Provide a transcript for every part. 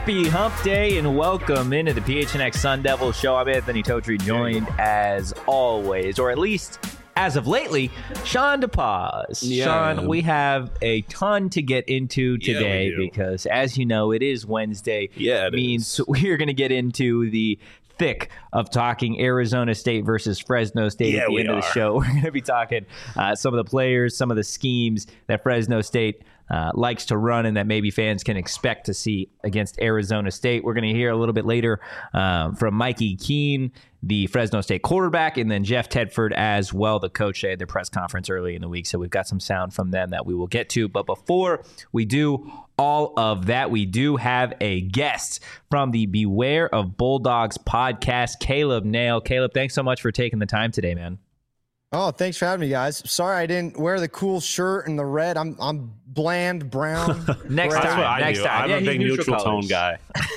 Happy Hump Day and welcome into the PHNX Sun Devils show. I'm Anthony Totri, joined as always, or at least as of lately, Sean DePaz. Sean, we have a ton to get into today because, as you know, it is Wednesday. Yeah, it means we're going to get into the thick of talking Arizona State versus Fresno State at the end of the show. We're going to be talking some of the players, some of the schemes that Fresno State likes to run and that maybe fans can expect to see against Arizona State. We're going to hear a little bit later from Mikey Keene, the Fresno State quarterback, and then Jeff Tedford as well, the coach. They had their press conference early in the week, so we've got some sound from them that we will get to. But before we do all of that, we do have a guest from the Beware of Bulldogs podcast, Caleb Nail. Caleb, thanks so much for taking the time today, man. Oh, thanks for having me, guys. Sorry I didn't wear the cool shirt and the red. I'm bland brown. Next That's time. what I do. I'm a big neutral tone guy.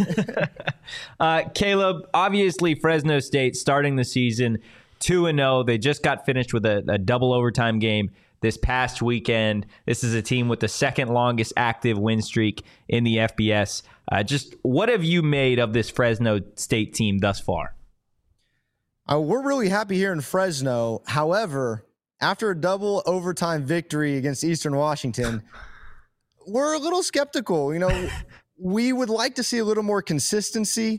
Caleb, obviously Fresno State starting the season 2-0. They just got finished with a double overtime game this past weekend. This is a team with the second longest active win streak in the FBS. Just what have you made of this Fresno State team thus far? We're really happy here in Fresno. However, after a double overtime victory against Eastern Washington, we're a little skeptical. You know, we would like to see a little more consistency.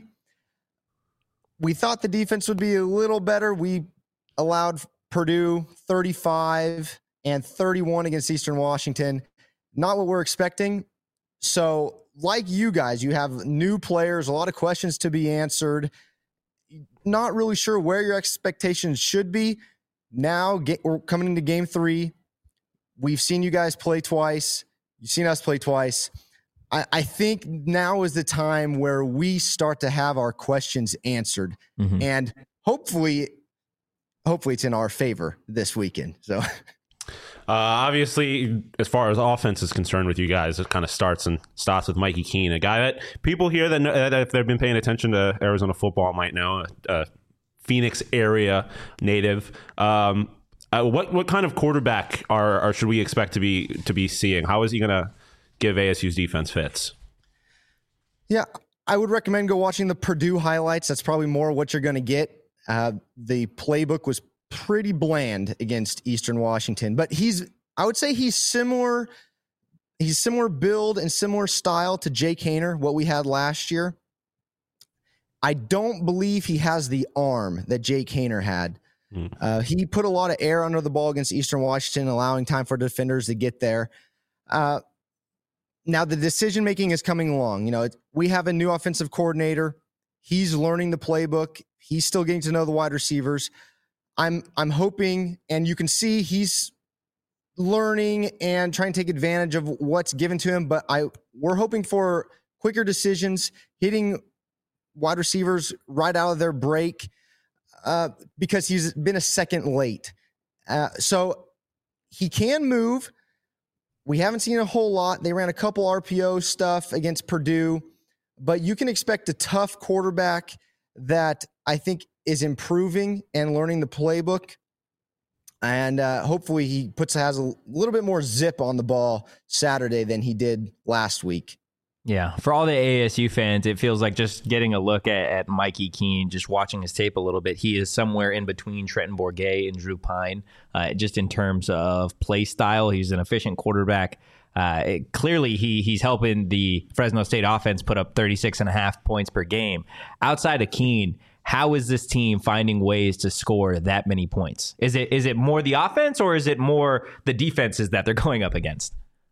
We thought the defense would be a little better. We allowed Purdue 35 and 31 against Eastern Washington. Not what we're expecting. So, like you guys, you have new players, a lot of questions to be answered. Not really sure where your expectations should be. Now we're coming into game 3. We've seen you guys play twice. You've seen us play twice. I think now is the time where we start to have our questions answered. Mm-hmm. And hopefully it's in our favor this weekend. So obviously, as far as offense is concerned with you guys, it kind of starts with Mikey Keene, a guy that people here that if they've been paying attention to Arizona football might know, Phoenix area native. What kind of quarterback should we expect to be seeing? How is he going to give ASU's defense fits? Yeah, I would recommend go watching the Purdue highlights. That's probably more what you're going to get. The playbook was pretty bland against Eastern Washington, but I would say he's similar build and similar style to Jake Haener, what we had last year. I don't believe he has the arm that Jake Haener had. He put a lot of air under the ball against Eastern Washington, allowing time for defenders to get there. Now the decision-making is coming along. You know, we have a new offensive coordinator. He's learning the playbook. He's still getting to know the wide receivers. I'm hoping, and you can see he's learning and trying to take advantage of what's given to him, but we're hoping for quicker decisions, hitting wide receivers right out of their break because he's been a second late. So he can move. We haven't seen a whole lot. They ran a couple RPO stuff against Purdue, but you can expect a tough quarterback that I think is improving and learning the playbook. And hopefully he has a little bit more zip on the ball Saturday than he did last week. Yeah, for all the ASU fans, it feels like just getting a look at Mikey Keene, just watching his tape a little bit, he is somewhere in between Trenton Bourguet and Drew Pine, just in terms of play style. He's an efficient quarterback. Clearly, he's helping the Fresno State offense put up 36.5 points per game. Outside of Keene, how is this team finding ways to score that many points? Is it more the offense or is it more the defenses that they're going up against?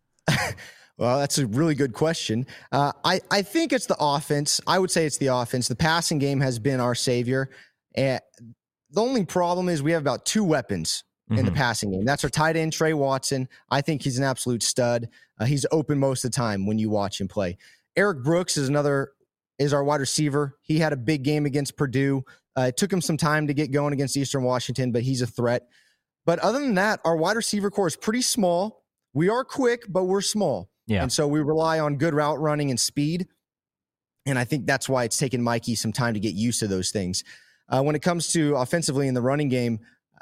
Well, that's a really good question. I think it's the offense. I would say it's the offense. The passing game has been our savior. The only problem is we have about 2 weapons in the passing game. That's our tight end, Trey Watson. I think he's an absolute stud. He's open most of the time when you watch him play. Eric Brooks is our wide receiver. He had a big game against Purdue. It took him some time to get going against Eastern Washington, but he's a threat. But other than that, our wide receiver core is pretty small. We are quick, but we're small. Yeah. And so we rely on good route running and speed. And I think that's why it's taken Mikey some time to get used to those things. When it comes to offensively in the running game,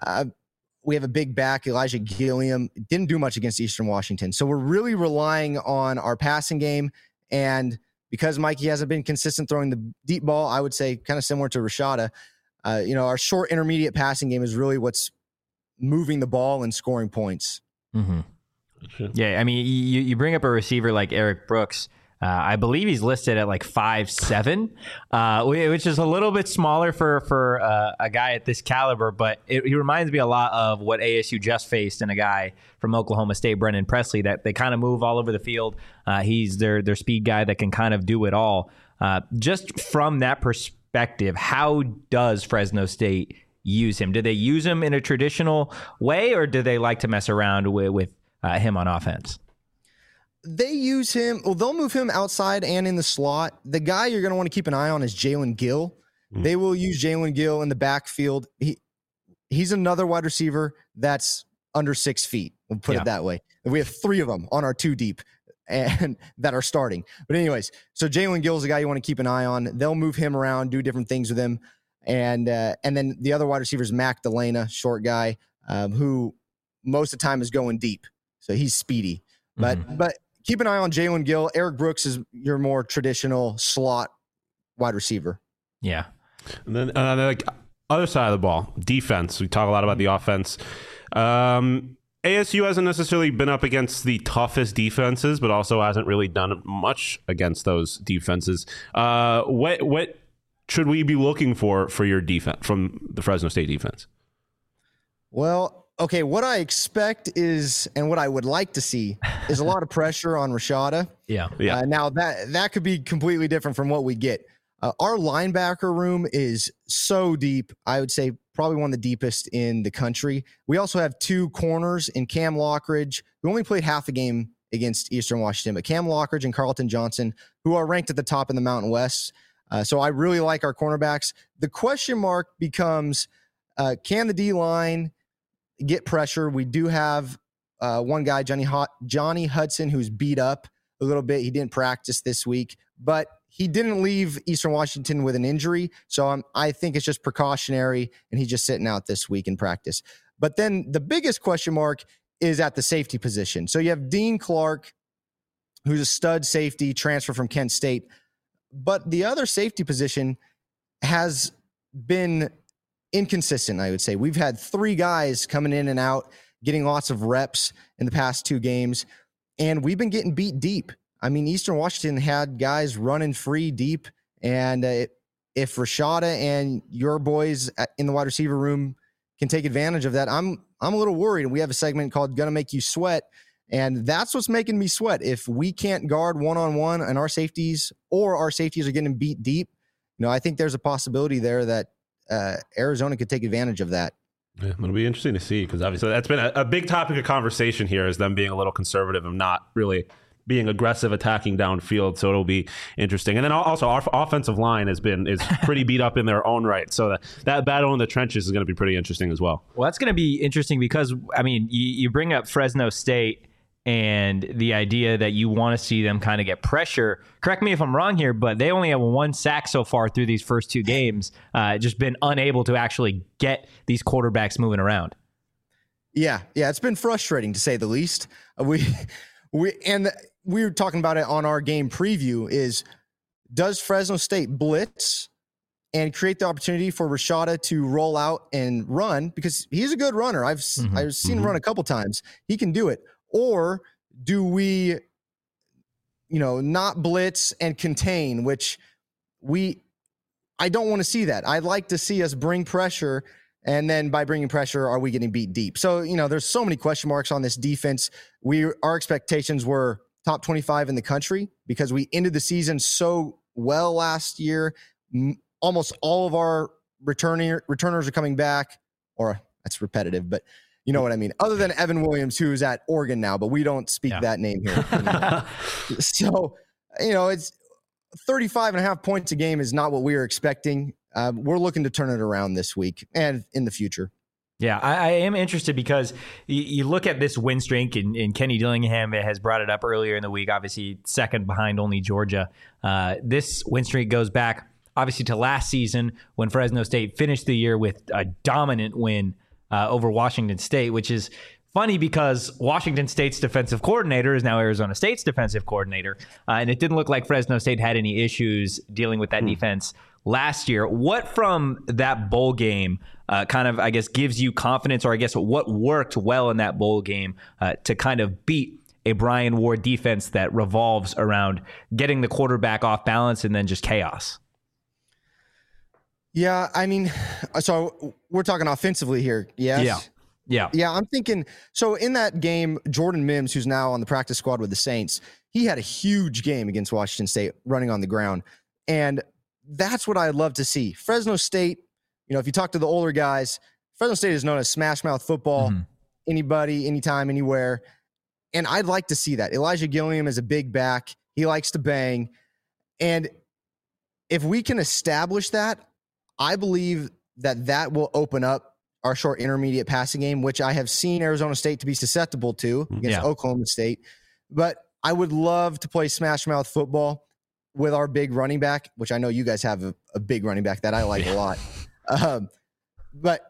we have a big back, Elijah Gilliam. Didn't do much against Eastern Washington. So we're really relying on our passing game. And because Mikey hasn't been consistent throwing the deep ball, I would say kind of similar to Rashada. Our short intermediate passing game is really what's moving the ball and scoring points. Mm-hmm. Yeah, I mean, you bring up a receiver like Eric Brooks. I believe he's listed at like 5'7", which is a little bit smaller for a guy at this caliber, but he reminds me a lot of what ASU just faced in a guy from Oklahoma State, Brennan Presley, that they kind of move all over the field. He's their speed guy that can kind of do it all. Just from that perspective, how does Fresno State use him? Do they use him in a traditional way, or do they like to mess around with him on offense? They use him. Well, they'll move him outside and in the slot. The guy you're going to want to keep an eye on is Jalen Gill. They will use Jalen Gill in the backfield. He's another wide receiver that's under 6 feet. We'll put it that way. And we have 3 of them on our 2 deep and that are starting. But anyways, so Jalen Gill is the guy you want to keep an eye on. They'll move him around, do different things with him. And then the other wide receiver is Mac Delana, short guy, who most of the time is going deep. So he's speedy. But keep an eye on Jalen Gill. Eric Brooks is your more traditional slot wide receiver. Yeah. And then like other side of the ball, defense. We talk a lot about the offense. ASU hasn't necessarily been up against the toughest defenses, but also hasn't really done much against those defenses. What should we be looking for your defense from the Fresno State defense? Well, okay, what I expect is, and what I would like to see, is a lot of pressure on Rashada. Yeah. Now that could be completely different from what we get. Our linebacker room is so deep. I would say probably one of the deepest in the country. We also have 2 corners in Cam Lockridge, who only played half a game against Eastern Washington, but Cam Lockridge and Carlton Johnson, who are ranked at the top in the Mountain West. So I really like our cornerbacks. The question mark becomes, can the D-line get pressure? We do have one guy, Johnny Hudson, who's beat up a little bit. He didn't practice this week, but he didn't leave Eastern Washington with an injury. So I think it's just precautionary, and he's just sitting out this week in practice. But then the biggest question mark is at the safety position. So you have Dean Clark, who's a stud safety, transfer from Kent State. But the other safety position has been inconsistent, I would say. We've had 3 guys coming in and out, getting lots of reps in the past 2 games, and we've been getting beat deep. I mean, Eastern Washington had guys running free deep, and if Rashada and your boys in the wide receiver room can take advantage of that, I'm a little worried. We have a segment called Gonna Make You Sweat, and that's what's making me sweat. If we can't guard one-on-one and our safeties are getting beat deep, I think there's a possibility there that Arizona could take advantage of that. Yeah, it'll be interesting to see, because obviously that's been a big topic of conversation here, is them being a little conservative and not really being aggressive attacking downfield. So it'll be interesting. And then also our offensive line is pretty beat up in their own right. So that battle in the trenches is going to be pretty interesting as well. Well, that's going to be interesting because, I mean, you bring up Fresno State and the idea that you want to see them kind of get pressure. Correct me if I'm wrong here, but they only have 1 sack so far through these first 2 games. Just been unable to actually get these quarterbacks moving around. Yeah, it's been frustrating to say the least. We were talking about it on our game preview. Does Fresno State blitz and create the opportunity for Rashada to roll out and run, because he's a good runner. I've seen him run a couple times. He can do it. Or do we, not blitz and contain, which I don't want to see that. I'd like to see us bring pressure, and then by bringing pressure, are we getting beat deep? So, there's so many question marks on this defense. Our expectations were top 25 in the country because we ended the season so well last year. Almost all of our returners are coming back, or that's repetitive, but you know what I mean? Other than Evan Williams, who's at Oregon now, but we don't speak that name here. So, it's 35.5 points a game is not what we were expecting. We're looking to turn it around this week and in the future. Yeah, I am interested because you look at this win streak, and Kenny Dillingham has brought it up earlier in the week, obviously second behind only Georgia. This win streak goes back, obviously, to last season when Fresno State finished the year with a dominant win over Washington State, which is funny because Washington State's defensive coordinator is now Arizona State's defensive coordinator. And it didn't look like Fresno State had any issues dealing with that defense last year. What from that bowl game kind of, I guess, gives you confidence, or I guess what worked well in that bowl game to kind of beat a Brian Ward defense that revolves around getting the quarterback off balance and then just chaos? Yeah, I mean, so we're talking offensively here, yes? Yeah. I'm thinking, so in that game, Jordan Mims, who's now on the practice squad with the Saints, he had a huge game against Washington State running on the ground. And that's what I'd love to see. Fresno State, if you talk to the older guys, Fresno State is known as smash mouth football, anybody, anytime, anywhere. And I'd like to see that. Elijah Gilliam is a big back. He likes to bang. And if we can establish that, I believe that will open up our short intermediate passing game, which I have seen Arizona State to be susceptible to against Oklahoma State. But I would love to play smash mouth football with our big running back, which I know you guys have a big running back that I like a lot. But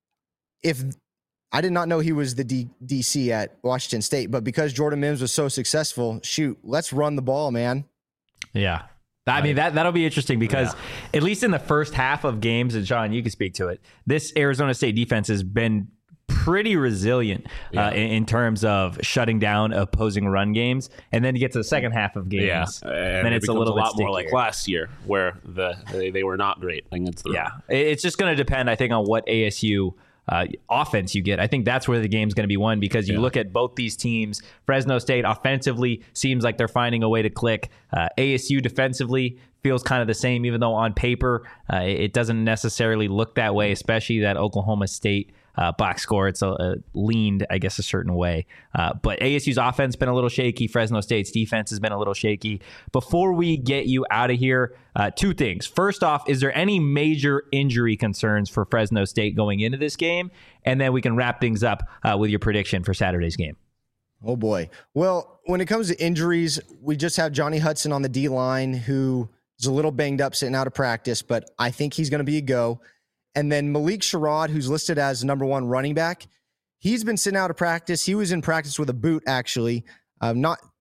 if I did not know he was the DC at Washington State, but because Jordan Mims was so successful, let's run the ball, man. Yeah. I mean, that'll be interesting because at least in the first half of games, and Sean, you can speak to it, this Arizona State defense has been pretty resilient in terms of shutting down opposing run games. And then you get to the second half of games, then it's a lot more like last year where they were not great against the run. Yeah, it's just going to depend, I think, on what ASU offense you get. I think that's where the game's going to be won, because you look at both these teams. Fresno State offensively seems like they're finding a way to click. ASU defensively feels kind of the same, even though on paper it doesn't necessarily look that way, especially that Oklahoma State box score. It's leaned, I guess, a certain way. But ASU's offense been a little shaky. Fresno State's defense has been a little shaky. Before we get you out of here, two things. First off, is there any major injury concerns for Fresno State going into this game? And then we can wrap things up with your prediction for Saturday's game. Oh, boy. Well, when it comes to injuries, we just have Johnny Hudson on the D-line, who is a little banged up sitting out of practice, but I think he's going to be a go. And then Malik Sherrod, who's listed as number one running back, he's been sitting out of practice. He was in practice with a boot, actually. We're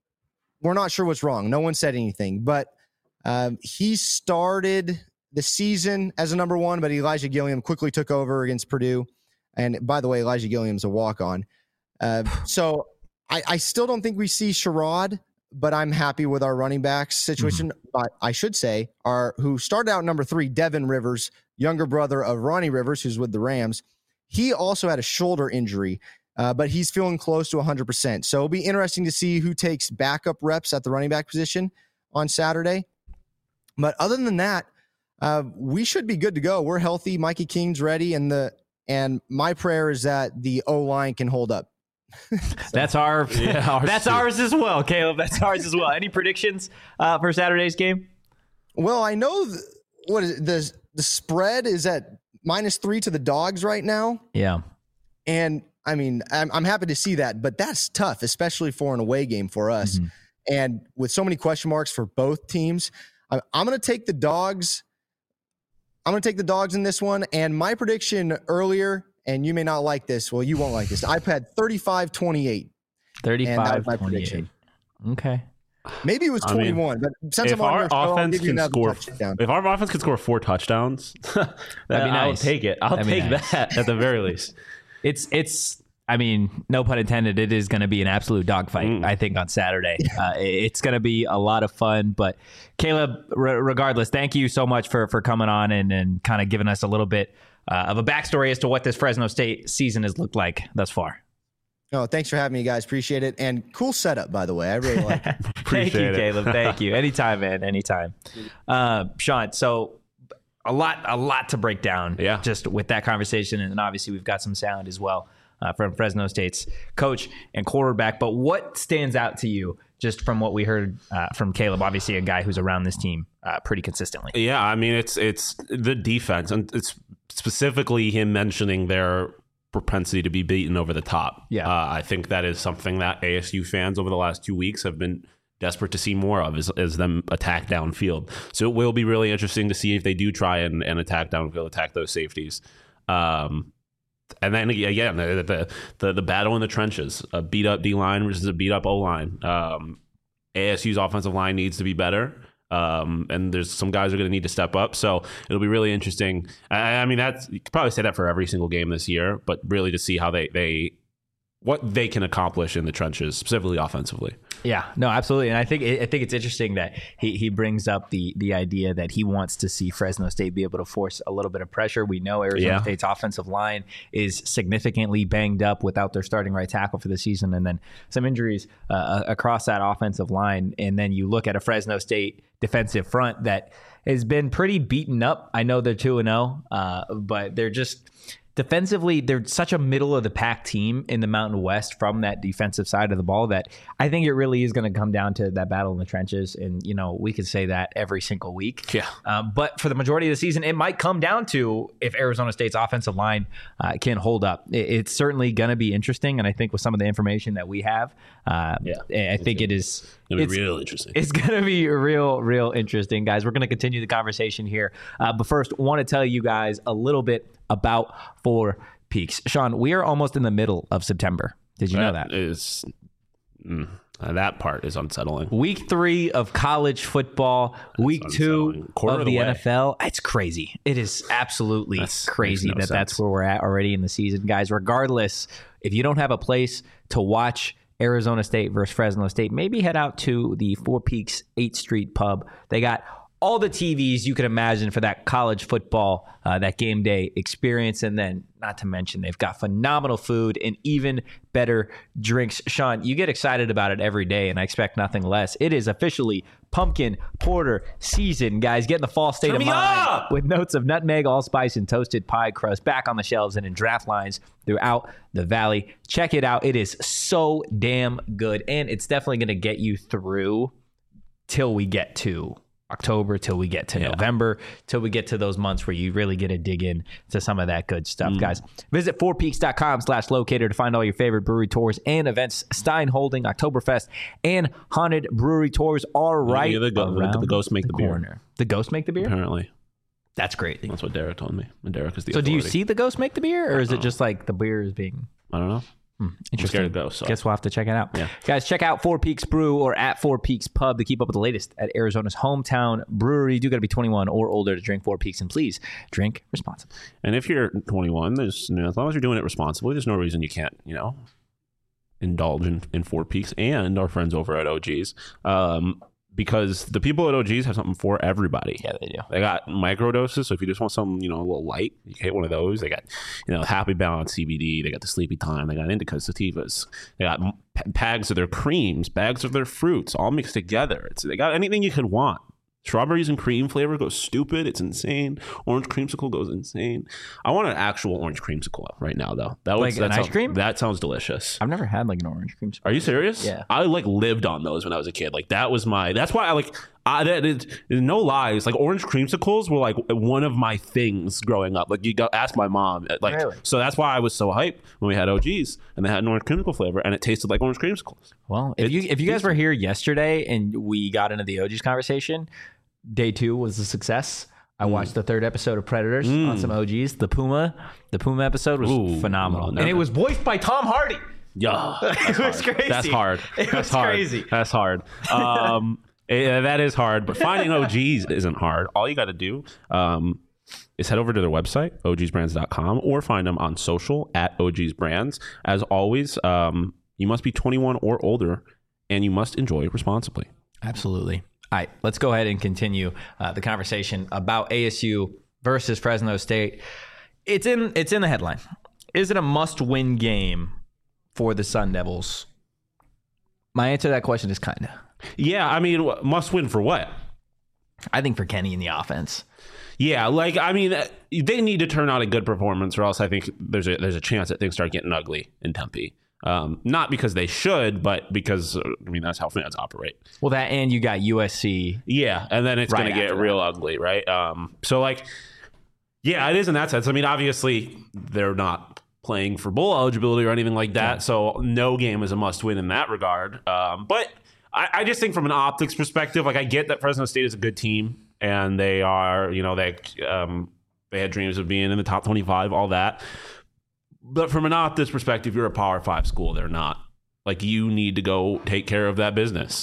not sure what's wrong. No one said anything, but he started the season as a number one, but Elijah Gilliam quickly took over against Purdue. And by the way, Elijah Gilliam's a walk-on. So I still don't think we see Sherrod, but I'm happy with our running backs situation. But I should say, who started out number 3, Devin Rivers, younger brother of Ronnie Rivers, who's with the Rams. He also had a shoulder injury, but he's feeling close to 100%. So it'll be interesting to see who takes backup reps at the running back position on Saturday. But other than that, we should be good to go. We're healthy. Mikey King's ready, and my prayer is that the O-line can hold up. That's ours as well, Caleb. That's ours as well. Any predictions for Saturday's game? Well, I know what is it, the spread is at -3 to the Dogs right now. Yeah. And I mean, I'm happy to see that, but that's tough, especially for an away game for us. And with so many question marks for both teams, I'm going to take the Dogs. I'm going to take the Dogs in this one. And my prediction earlier, and you may not like this. Well, you won't like this. I've had 35-28. 35-28. Okay. Maybe it was 21, but since if our offense can score 4 touchdowns, that'd be nice. I'll take it. I'll take that at the very least. It's. I mean, no pun intended. It is going to be an absolute dogfight, I think, on Saturday. It's going to be a lot of fun. But Caleb, regardless, thank you so much for coming on and kind of giving us a little bit of a backstory as to what this Fresno State season has looked like thus far. Oh, thanks for having me, guys. Appreciate it. And cool setup, by the way. I really like it. Thank you, Caleb. Thank you. Anytime, man. Anytime. Sean, so a lot to break down just with that conversation. And then obviously we've got some sound as well from Fresno State's coach and quarterback. But what stands out to you just from what we heard from Caleb? Obviously a guy who's around this team pretty consistently. Yeah, I mean, it's the defense. And it's specifically him mentioning their propensity to be beaten over the top. I think that is something that ASU fans over the last 2 weeks have been desperate to see more of, is them attack downfield. So it will be really interesting to see if they do try and attack downfield, attack those safeties. And then again, the battle in the trenches, a beat up D line versus a beat up O line. ASU's offensive line needs to be better. And there's some guys are going to need to step up. So it'll be really interesting. I mean, you could probably say that for every single game this year, but really to see how what they can accomplish in the trenches, specifically offensively. Yeah, no, absolutely. And I think it's interesting that he brings up the idea that he wants to see Fresno State be able to force a little bit of pressure. We know Arizona State's offensive line is significantly banged up without their starting right tackle for the season, and then some injuries across that offensive line. And then you look at a Fresno State defensive front that has been pretty beaten up. I know they're 2-0, but they're just... defensively, they're such a middle of the pack team in the Mountain West from that defensive side of the ball that I think it really is going to come down to that battle in the trenches. And, we could say that every single week. Yeah. But for the majority of the season, it might come down to if Arizona State's offensive line can hold up. It's certainly going to be interesting. And I think with some of the information that we have, I think it's real interesting. It's going to be real interesting, guys. We're going to continue the conversation here. But first, want to tell you guys a little bit about Four Peaks. Sean, we are almost in the middle of September. Did you know that? That part is unsettling. Week 3 of college football, week 2 of the NFL. It's crazy. It is absolutely crazy that's where we're at already in the season, guys. Regardless, if you don't have a place to watch Arizona State versus Fresno State, maybe head out to the Four Peaks 8th Street Pub. They got all the TVs you can imagine for that college football, that game day experience. And then, not to mention, they've got phenomenal food and even better drinks. Sean, you get excited about it every day, and I expect nothing less. It is officially pumpkin porter season, guys. Get in the fall state of mind with notes of nutmeg, allspice, and toasted pie crust back on the shelves and in draft lines throughout the valley. Check it out. It is so damn good, and it's definitely going to get you through till we get to October, till we get to November, till we get to those months where you really get to dig in to some of that good stuff, guys. Visit fourpeaks.com/locator to find all your favorite brewery tours and events. Stein Holding, Oktoberfest, and Haunted Brewery Tours are right around the ghosts make the corner. Beer. The ghosts make the beer? Apparently. That's great. That's what Derek told me. And Derek is the So authority. do you see the ghosts make the beer, or is it just like the beer is being... I don't know. Interesting. I'm scared of ghosts. So. Guess we'll have to check it out. Yeah. Guys, check out Four Peaks Brew or at Four Peaks Pub to keep up with the latest at Arizona's hometown brewery. You do got to be 21 or older to drink Four Peaks, and please drink responsibly. And if you're 21, there's as long as you're doing it responsibly, there's no reason you can't, indulge in Four Peaks and our friends over at OG's. Because the people at OG's have something for everybody. Yeah, they do. They got micro doses, so if you just want something, a little light, you can hit one of those. They got, Happy Balance CBD. They got the Sleepy Time. They got indicas, sativas. They got bags of their creams, bags of their fruits, all mixed together. They got anything you could want. Strawberries and cream flavor goes stupid. It's insane. Orange creamsicle goes insane. I want an actual orange creamsicle right now, though. Ice cream? That sounds delicious. I've never had an orange creamsicle. Are you serious? Yeah. I lived on those when I was a kid. That's why no lies. Orange creamsicles were one of my things growing up. You go ask my mom. Really? So that's why I was so hyped when we had OGs and they had an orange creamsicle flavor and it tasted like orange creamsicles. Well, if you guys were here yesterday and we got into the OGs conversation, day 2 was a success. I watched the 3rd episode of Predators on some OGs. The Puma episode was phenomenal. And it was voiced by Tom Hardy. Yeah. It was crazy. That's hard. That's crazy. That's hard. That is hard, but finding OGs isn't hard. All you got to do is head over to their website, ogsbrands.com, or find them on social at ogsbrands. As always, you must be 21 or older, and you must enjoy responsibly. Absolutely. All right, let's go ahead and continue the conversation about ASU versus Fresno State. It's in the headline. Is it a must-win game for the Sun Devils? My answer to that question is kind of. Yeah, I mean, must win for what? I think for Kenny in the offense. Yeah, they need to turn out a good performance, or else I think there's a chance that things start getting ugly in Tempe. Not because they should, but because that's how fans operate. Well, that and you got USC. Yeah, and then it's going to get real ugly, right? Yeah, it is in that sense. Obviously they're not playing for bowl eligibility or anything like that, so no game is a must-win in that regard. But I just think from an optics perspective, I get that Fresno State is a good team, and they are, they had dreams of being in the top 25, all that. But from an Optus perspective, you're a Power 5 school. They're not. Like, you need to go take care of that business.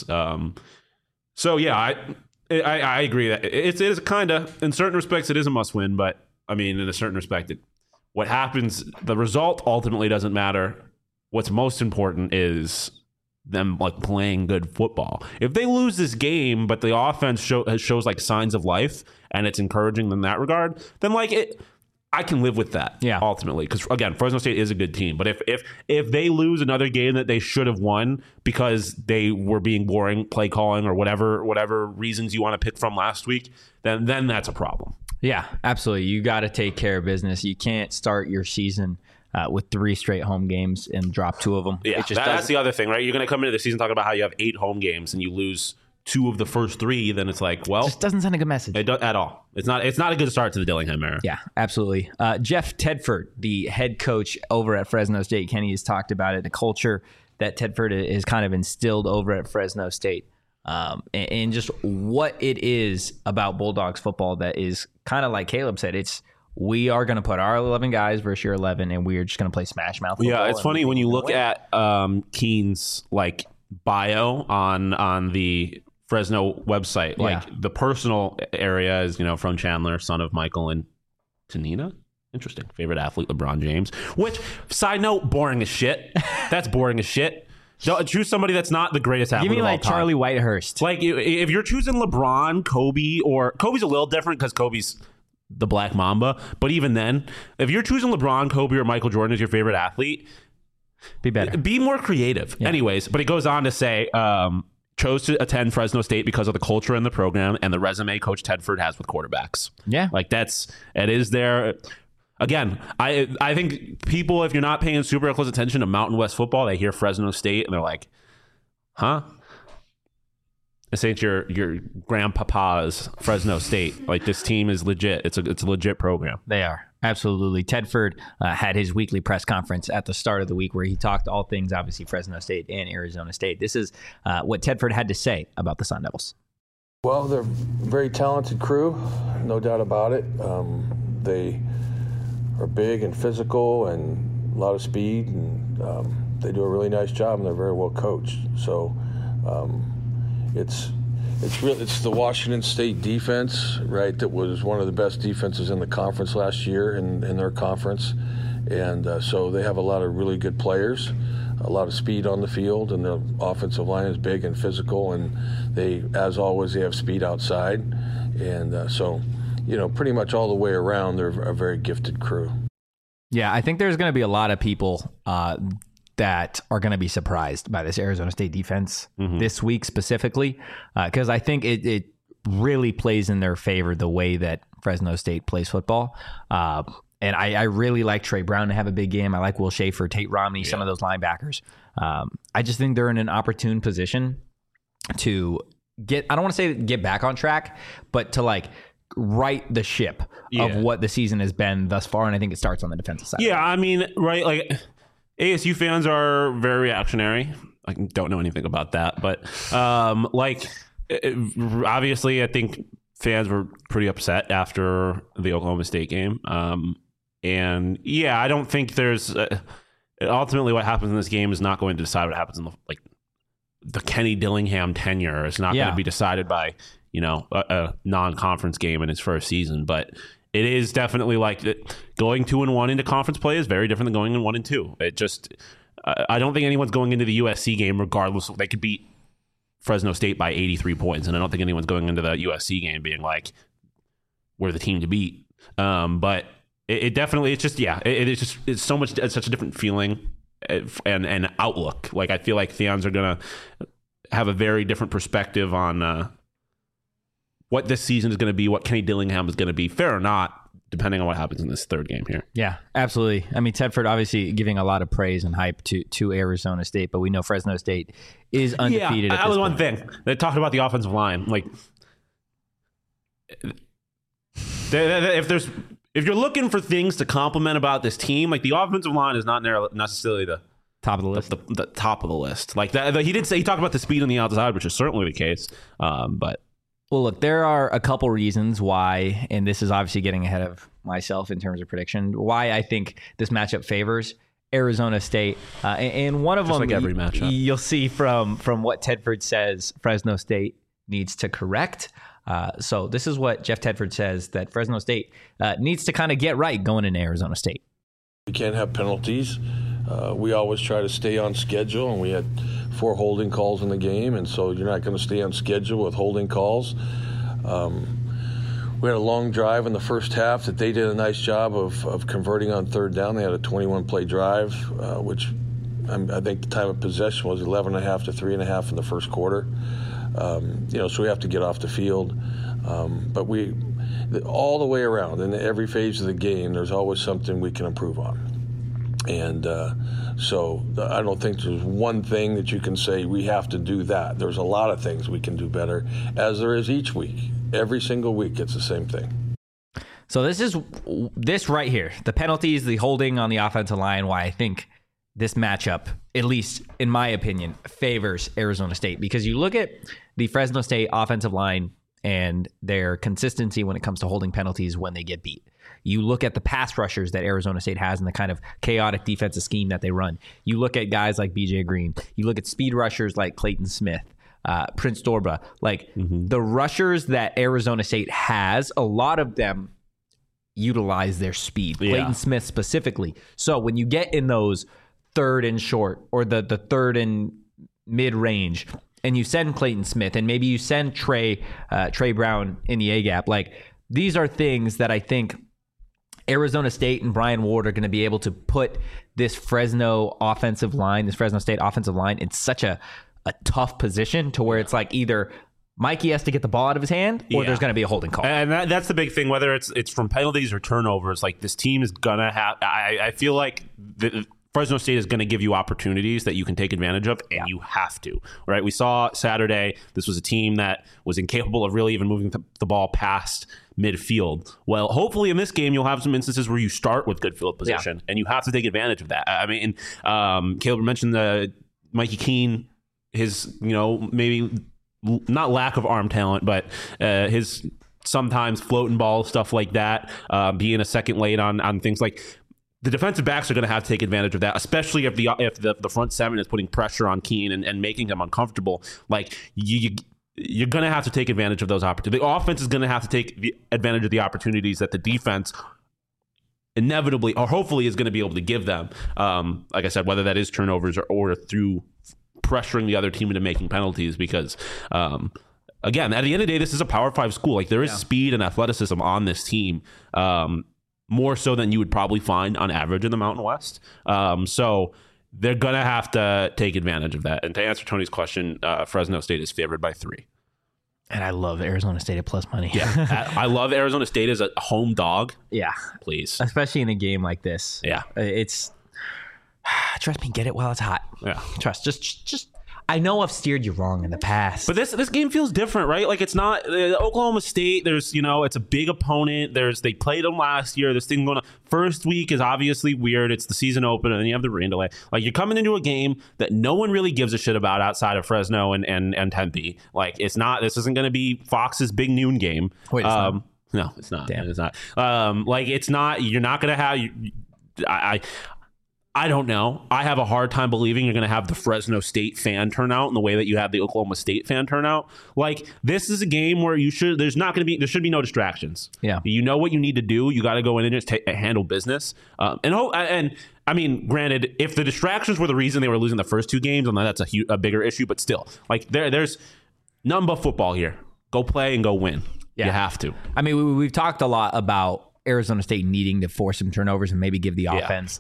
So yeah, I agree that it is kind of, in certain respects, it is a must win. But I mean, in a certain respect, what happens, the result ultimately doesn't matter. What's most important is them like playing good football. If they lose this game, but the offense shows like signs of life and it's encouraging in that regard, then like I can live with that. Yeah. Ultimately, because again, Fresno State is a good team. But if they lose another game that they should have won because they were being boring play calling or whatever reasons you want to pick from last week, then that's a problem. Yeah, absolutely. You got to take care of business. You can't start your season with 3 straight home games and drop 2 of them. Yeah, that's the other thing, right? You're going to come into the season talking about how you have 8 home games and you lose 2 of the first 3. Then it's like, well, just doesn't send a good message at all. It's not a good start to the Dillingham era. Yeah, absolutely. Jeff Tedford, the head coach over at Fresno State, Kenny has talked about it. The culture that Tedford has kind of instilled over at Fresno State, and just what it is about Bulldogs football that is kind of like Caleb said. We are going to put our 11 guys versus your 11, and we are just going to play smash mouth football. Yeah, it's funny when you look at Keene's like bio on the Fresno website. Like the personal area is, from Chandler, son of Michael and Tanina. Interesting. Favorite athlete, LeBron James. Which, side note, boring as shit. That's boring as shit. Choose somebody that's not the greatest athlete of all time. Give me like Charlie Whitehurst. Like if you're choosing LeBron, Kobe, or Kobe's a little different because Kobe's the Black Mamba. But even then, if you're choosing LeBron, Kobe, or Michael Jordan as your favorite athlete, be better. Be more creative. Yeah. Anyways, but it goes on to say, chose to attend Fresno State because of the culture in the program and the resume Coach Tedford has with quarterbacks. Yeah. Like it is there. Again, I think people, if you're not paying super close attention to Mountain West football, they hear Fresno State and they're like, huh? This ain't your grandpapa's Fresno State. Like, this team is legit. It's a legit program. They are. Absolutely. Tedford had his weekly press conference at the start of the week where he talked all things, obviously, Fresno State and Arizona State. This is what Tedford had to say about the Sun Devils. Well, they're a very talented crew, no doubt about it. They are big and physical and a lot of speed, and they do a really nice job, and they're very well coached. So it's the Washington State defense, right, that was one of the best defenses in the conference last year in their conference. And so they have a lot of really good players, a lot of speed on the field, and the offensive line is big and physical, and they, as always, they have speed outside. And so, pretty much all the way around, they're a very gifted crew. Yeah, I think there's going to be a lot of people that are going to be surprised by this Arizona State defense this week specifically, because I think it really plays in their favor the way that Fresno State plays football. And I really like Trey Brown to have a big game. I like Will Schaefer, Tate Romney, some of those linebackers. I just think they're in an opportune position to I don't want to say get back on track, but to like right the ship of what the season has been thus far. And I think it starts on the defensive side. Yeah, I mean, right, like ASU fans are very reactionary. I don't know anything about that, but obviously I think fans were pretty upset after the Oklahoma State game. And yeah, I don't think there's ultimately what happens in this game is not going to decide what happens in the Kenny Dillingham tenure. It's not going to be decided by, a non-conference game in his first season, but it is definitely like going 2-1 into conference play is very different than going in 1-2. It just, I don't think anyone's going into the USC game regardless. They could beat Fresno State by 83 points, and I don't think anyone's going into the USC game being like, we're the team to beat. But it definitely, it's just, it's so much, it's such a different feeling and outlook. Like, I feel like fans are going to have a very different perspective on what this season is going to be, what Kenny Dillingham is going to be, fair or not, depending on what happens in this third game here. Yeah, absolutely. I mean, Tedford obviously giving a lot of praise and hype to Arizona State, but we know Fresno State is undefeated. Yeah, that was one thing. They talked about the offensive line. Like, if you're looking for things to compliment about this team, like, the offensive line is not necessarily the top of the list. The top of the list. Like that, he talked about the speed on the outside, which is certainly the case. But well, look, there are a couple reasons why, and this is obviously getting ahead of myself in terms of prediction. Why I think this matchup favors Arizona State, and one of Just them, like every matchup. you'll see from what Tedford says, Fresno State needs to correct. So this is what Jeff Tedford says that Fresno State needs to kind of get right going into Arizona State. We can't have penalties. We always try to stay on schedule, and we had 4 holding calls in the game, and so you're not going to stay on schedule with holding calls. We had a long drive in the first half that they did a nice job of converting on third down. They had a 21-play drive, which I think the time of possession was 11.5 to 3.5 in the first quarter. So we have to get off the field. But all the way around, in every phase of the game, there's always something we can improve on. And so I don't think there's one thing that you can say we have to do that. There's a lot of things we can do better, as there is each week. Every single week, it's the same thing. So this right here, the penalties, the holding on the offensive line, why I think this matchup, at least in my opinion, favors Arizona State. Because you look at the Fresno State offensive line and their consistency when it comes to holding penalties when they get beat. You look at the pass rushers that Arizona State has and the kind of chaotic defensive scheme that they run. You look at guys like BJ Green. You look at speed rushers like Clayton Smith. Prince Dorba, the rushers that Arizona State has, a lot of them utilize their speed. Yeah. Clayton Smith specifically. So when you get in those third and short or the third and mid range, and you send Clayton Smith, and maybe you send Trey Brown in the A gap, these are things that I think Arizona State and Brian Ward are going to be able to put this Fresno State offensive line in such a tough position to where it's either Mikey has to get the ball out of his hand or there's going to be a holding call. And that's the big thing, whether it's from penalties or turnovers, this team is going to have, I feel like Fresno State is going to give you opportunities that you can take advantage of, and you have to, right? We saw Saturday, this was a team that was incapable of really even moving the ball past midfield. Well, hopefully in this game, you'll have some instances where you start with good field position, and you have to take advantage of that. I mean, Caleb mentioned the Mikey Keene, his, maybe not lack of arm talent, but his sometimes floating ball, stuff like that, being a second late on things the defensive backs are going to have to take advantage of that, especially if the front seven is putting pressure on Keene and making him uncomfortable. You're going to have to take advantage of those opportunities. The offense is going to have to take advantage of the opportunities that the defense inevitably or hopefully is going to be able to give them. Like I said, whether that is turnovers or through pressuring the other team into making penalties, because again, at the end of the day, this is a Power 5 school. There is speed and athleticism on this team, more so than you would probably find on average in the Mountain West. So they're going to have to take advantage of that. And to answer Tony's question, Fresno State is favored by 3. And I love Arizona State at plus money. Yeah, I love Arizona State as a home dog. Yeah. Please. Especially in a game like this. Yeah. It's, trust me, get it while it's hot. Yeah. Trust. Just I know I've steered you wrong in the past. But this game feels different, right? It's not Oklahoma State. There's, it's a big opponent. They played them last year. This thing going on. First week is obviously weird. It's the season opener, and then you have the rain delay. You're coming into a game that no one really gives a shit about outside of Fresno and Tempe. It's not. This isn't going to be Fox's big noon game. Wait, it's not? No, it's not. Damn. It's not. It's not. You're not going to have. I don't know. I have a hard time believing you're going to have the Fresno State fan turnout in the way that you have the Oklahoma State fan turnout. This is a game where there should be no distractions. Yeah. You know what you need to do. You got to go in and just handle business. And I mean, granted, if the distractions were the reason they were losing the first 2 games, then that's a bigger issue. But still, there's nothing but football here. Go play and go win. Yeah. You have to. I mean, we've talked a lot about Arizona State needing to force some turnovers and maybe give the offense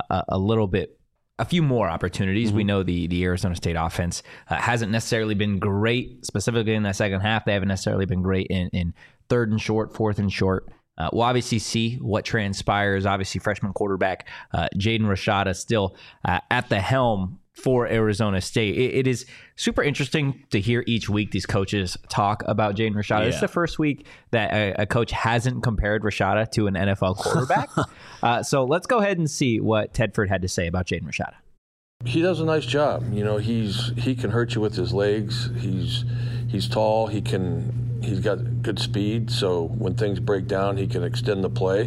a few more opportunities. Mm-hmm. We know the Arizona State offense hasn't necessarily been great, specifically in that second half. They haven't necessarily been great in third and short, fourth and short. We'll obviously see what transpires. Obviously, freshman quarterback Jaden Rashada still at the helm for Arizona State. It is super interesting to hear each week these coaches talk about Jaden Rashada. Yeah. This is the first week that a coach hasn't compared Rashada to an NFL quarterback. So let's go ahead and see what Tedford had to say about Jaden Rashada. He does a nice job. He can hurt you with his legs. He's tall. He can he's got good speed, so when things break down, he can extend the play,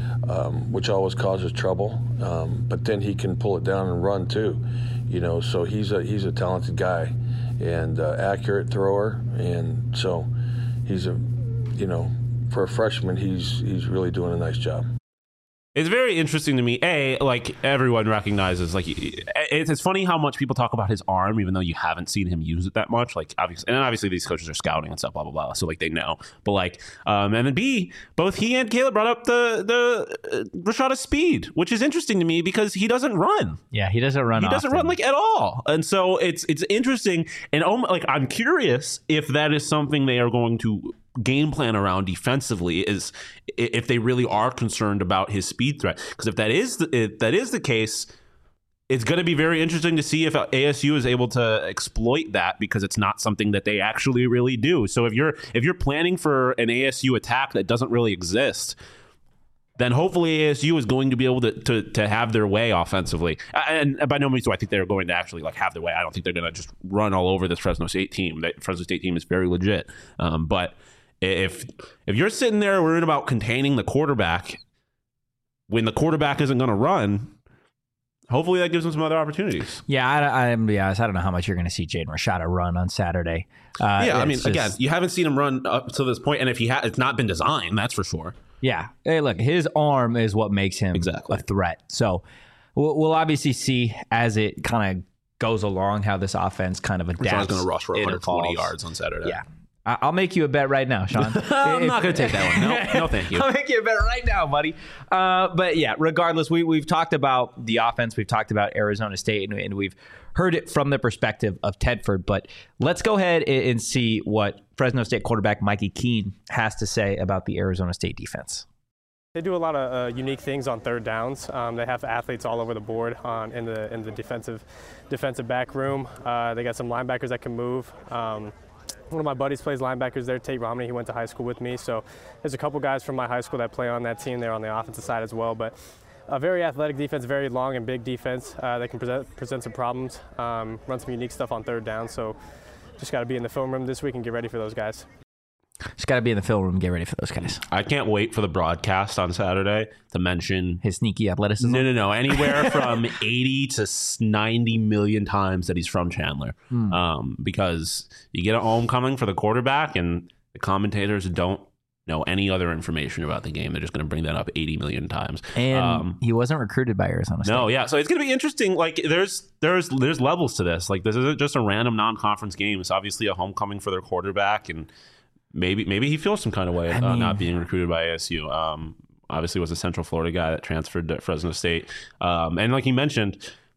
which always causes trouble. But then he can pull it down and run too, So he's a talented guy and accurate thrower, and so he's for a freshman, he's really doing a nice job. It's very interesting to me. Like everyone recognizes, like it's funny how much people talk about his arm, even though you haven't seen him use it that much. Like obviously these coaches are scouting and stuff, blah blah blah. So like they know, but like and then B, both he and Caleb brought up the Rashada's speed, which is interesting to me because he doesn't run. Yeah, he doesn't run. He doesn't run like at all, and so it's interesting. And like I'm curious if that is something they are going to game plan around defensively, is if they really are concerned about his speed threat. Because if that is the case, it's going to be very interesting to see if ASU is able to exploit that, because it's not something that they actually really do. So if you're planning for an ASU attack that doesn't really exist, then hopefully ASU is going to be able to have their way offensively. And by no means do I think they're going to actually like have their way. I don't think they're going to just run all over this Fresno State team. The Fresno State team is very legit. But if you're sitting there worrying about containing the quarterback when the quarterback isn't going to run, hopefully that gives them some other opportunities. Yeah, I'm be honest, I don't know how much you're going to see Jaden Rashada run on Saturday. Again, you haven't seen him run up to this point, and if it's not been designed, that's for sure. Yeah. Hey, look, his arm is what makes him a threat. So we'll obviously see as it kind of goes along how this offense kind of adapts. Rashada's going to rush for 120 yards on Saturday. Yeah. I'll make you a bet right now, Sean. I'm not going to take that one. No, thank you. I'll make you a bet right now, buddy. But yeah, regardless, we've talked about the offense. We've talked about Arizona State, and we've heard it from the perspective of Tedford. But let's go ahead and see what Fresno State quarterback Mikey Keene has to say about the Arizona State defense. They do a lot of unique things on third downs. They have athletes all over the board in the defensive back room. They got some linebackers that can move. One of my buddies plays linebackers there, Tate Romney. He went to high school with me. So there's a couple guys from my high school that play on that team there on the offensive side as well. But a very athletic defense, very long and big defense. They can present some problems, run some unique stuff on third down. So just got to be in the film room this week and get ready for those guys. Just got to be in the film room and get ready for those guys. I can't wait for the broadcast on Saturday to mention his sneaky athleticism. No. Anywhere from 80 to 90 million times that he's from Chandler. Because you get a homecoming for the quarterback and the commentators don't know any other information about the game. They're just going to bring that up 80 million times. And he wasn't recruited by Arizona State. No, yeah. So it's going to be interesting. Like there's levels to this. Like this isn't just a random non-conference game. It's obviously a homecoming for their quarterback, and maybe he feels some kind of way not being recruited by ASU. Obviously was a Central Florida guy that transferred to Fresno State. And like you mentioned,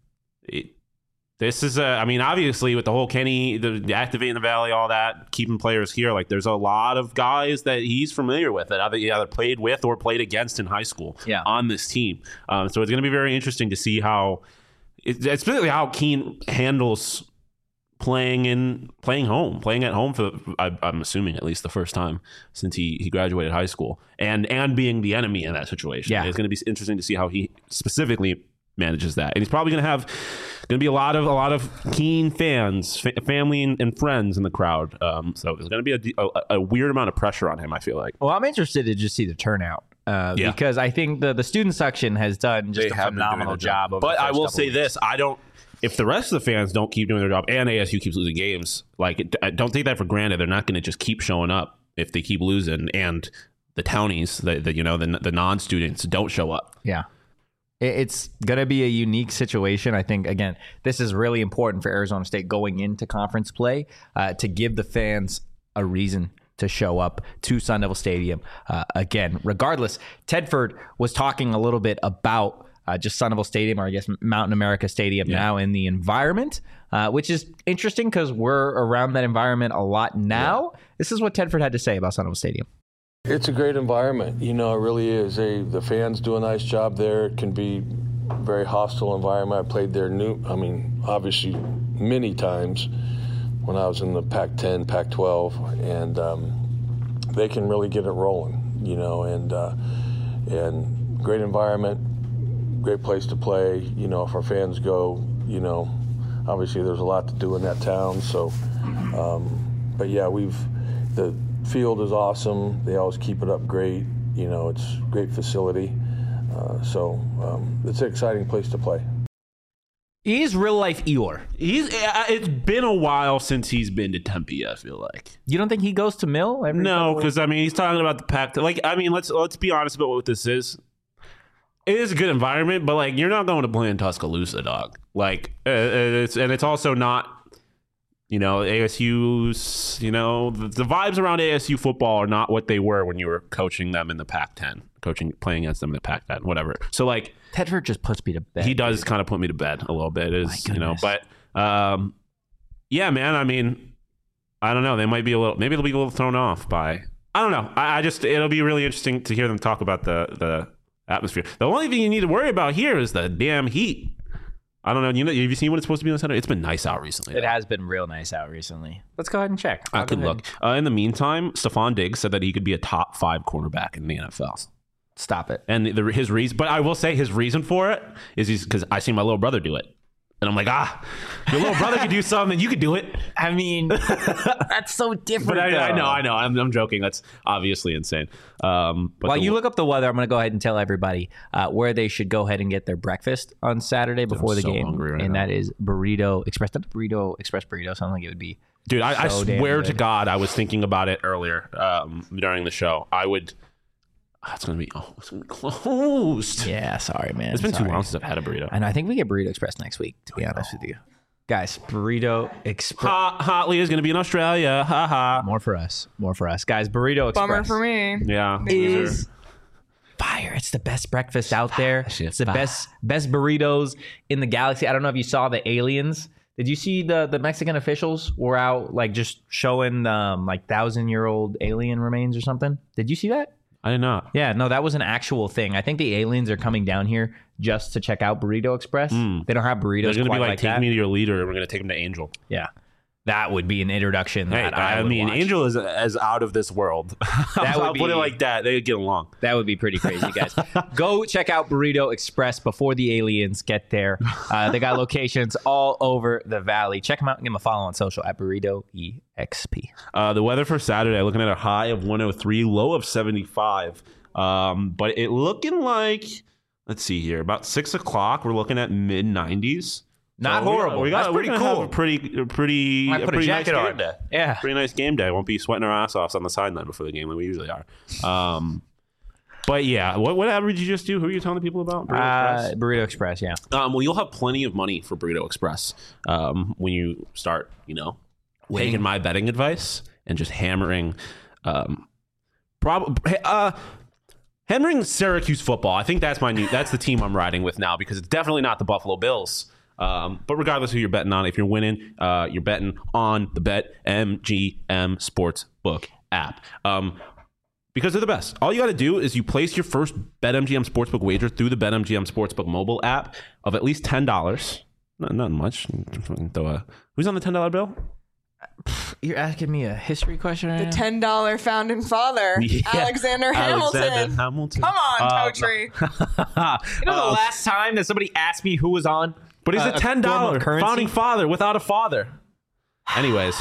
this is obviously with the whole Kenny, the activating the Valley, all that, keeping players here, like there's a lot of guys that he's familiar with that either played with or played against in high school on this team. So it's going to be very interesting to see especially how Keene handles playing at home for I'm assuming at least the first time since he graduated high school, and being the enemy in that situation. Yeah, it's going to be interesting to see how he specifically manages that, and he's probably going to be a lot of Keene fans, family and friends in the crowd. So there's going to be a weird amount of pressure on him, I feel like. Well, I'm interested to just see the turnout. Because I think the student section has done just a phenomenal job. But I will say this: if the rest of the fans don't keep doing their job and ASU keeps losing games, don't take that for granted. They're not going to just keep showing up if they keep losing, and the townies, the non-students don't show up. Yeah. It's going to be a unique situation. I think, again, this is really important for Arizona State going into conference play to give the fans a reason to show up to Sun Devil Stadium. Again, regardless, Tedford was talking a little bit about just Sun Devil Stadium, or I guess Mountain America Stadium now, in the environment, which is interesting because we're around that environment a lot now. Yeah. This is what Tedford had to say about Sun Devil Stadium. It's a great environment. It really is. The fans do a nice job there. It can be a very hostile environment. I played there obviously many times when I was in the Pac-10, Pac-12, and they can really get it rolling, and great environment, great place to play. If our fans go, obviously there's a lot to do in that town. So, but yeah, field is awesome. They always keep it up great. You know, it's a great facility. So it's an exciting place to play. He's real life Eeyore. It's been a while since he's been to Tempe, I feel like. You don't think he goes to Mill? No, because I mean he's talking about the Pac. Like, I mean, let's be honest about what this is. It is a good environment, but like you're not going to play in Tuscaloosa, dog. Like it's also not, you know, ASU's. You know, the vibes around ASU football are not what they were when you were coaching them in the Pac-10, playing against them in the Pac-10, whatever. So like. Tedford just puts me to bed. He does kind of put me to bed a little bit, you know. But yeah, man. I mean, I don't know. Maybe they'll be a little thrown off by. I don't know. I just it'll be really interesting to hear them talk about the atmosphere. The only thing you need to worry about here is the damn heat. I don't know. You know, have you seen what it's supposed to be on Saturday? It's been nice out recently. It has been real nice out recently. Let's go ahead and check. I could look. In the meantime, Stephon Diggs said that he could be a top 5 cornerback in the NFL. Stop it. And his reason, but I will say his reason for it is because I seen my little brother do it. And I'm like, your little brother could do something, you could do it. I mean, that's so different. But I know. I'm joking. That's obviously insane. But while you look up the weather, I'm going to go ahead and tell everybody where they should go ahead and get their breakfast on Saturday before the game. That is Burrito Express. Not Burrito Express Burrito. Sounds like it would be. Dude, I swear to God, I was thinking about it earlier during the show. It's gonna be closed. Yeah, sorry, man. It's been too long since I've had a burrito. And I think we get Burrito Express next week, to be honest with you. Guys, Burrito Express. Hotly is gonna be in Australia. Ha ha. More for us. Guys, Burrito Express. Bummer for me. Yeah. Is fire. It's the best breakfast out there. It's the best burritos in the galaxy. I don't know if you saw the aliens. Did you see the Mexican officials were out like just showing like 1,000-year-old alien remains or something? Did you see that? I did not. Yeah, no, that was an actual thing. I think the aliens are coming down here just to check out Burrito Express. They don't have burritos. They're going to be like take me to your leader, and we're going to take him to Angel. Yeah, that would be an introduction. Hey, I mean, watch. Angel is as out of this world. I'll put it like that. They get along. That would be pretty crazy, guys. Go check out Burrito Express before the aliens get there. They got locations all over the valley. Check them out and give them a follow on social at Burrito EXP. The weather for Saturday, looking at a high of 103, low of 75. But it looking like, let's see here, about 6 o'clock, we're looking at mid 90s. Not horrible. We're gonna have a pretty nice game day. Yeah, pretty nice game day. Won't be sweating our ass off on the sideline before the game like we usually are. But yeah, what ad did you just do? Who are you telling the people about? Burrito Express. Yeah. Well, you'll have plenty of money for Burrito Express when you start, taking my betting advice and just hammering, hammering Syracuse football. I think that's that's the team I'm riding with now because it's definitely not the Buffalo Bills. But regardless of who you're betting on, if you're winning, you're betting on the BetMGM Sportsbook app. Because they're the best. All you got to do is you place your first BetMGM Sportsbook wager through the BetMGM Sportsbook mobile app of at least $10. Not much. Who's on the $10 bill? You're asking me a history question right The $10 founding father, Alexander Hamilton. Come on, Totri. The last time that somebody asked me who was on, but he's a $10 founding father without a father. Anyways,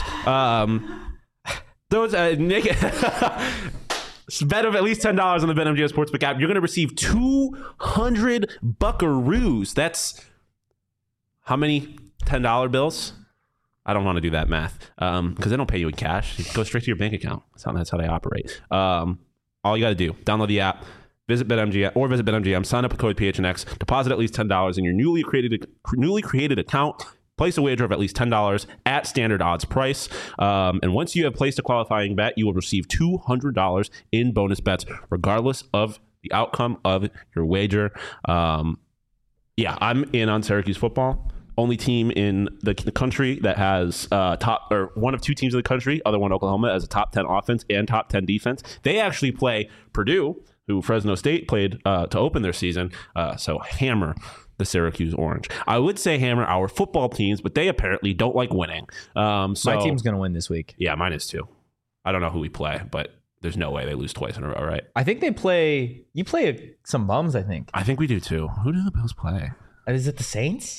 those Nick. Bet of at least $10 on the BetMGM Sportsbook app. You're going to receive 200 buckaroos. That's how many $10 bills? I don't want to do that math because they don't pay you in cash. It goes straight to your bank account. That's how they operate. All you got to do, download the app, visit BetMGM, sign up with code PHNX, deposit at least $10 in your newly created account. Place a wager of at least $10 at standard odds price. And once you have placed a qualifying bet, you will receive $200 in bonus bets, regardless of the outcome of your wager. I'm in on Syracuse football. Only team in the country that has one of two teams in the country, other one Oklahoma, as a top 10 offense and top 10 defense. They actually play Purdue, who Fresno State played to open their season. So hammer the Syracuse Orange. I would say hammer our football teams, but they apparently don't like winning. My team's going to win this week. Yeah, mine is too. I don't know who we play, but there's no way they lose twice in a row, right? I think you play some bums, I think. I think we do too. Who do the Bills play? Is it the Saints?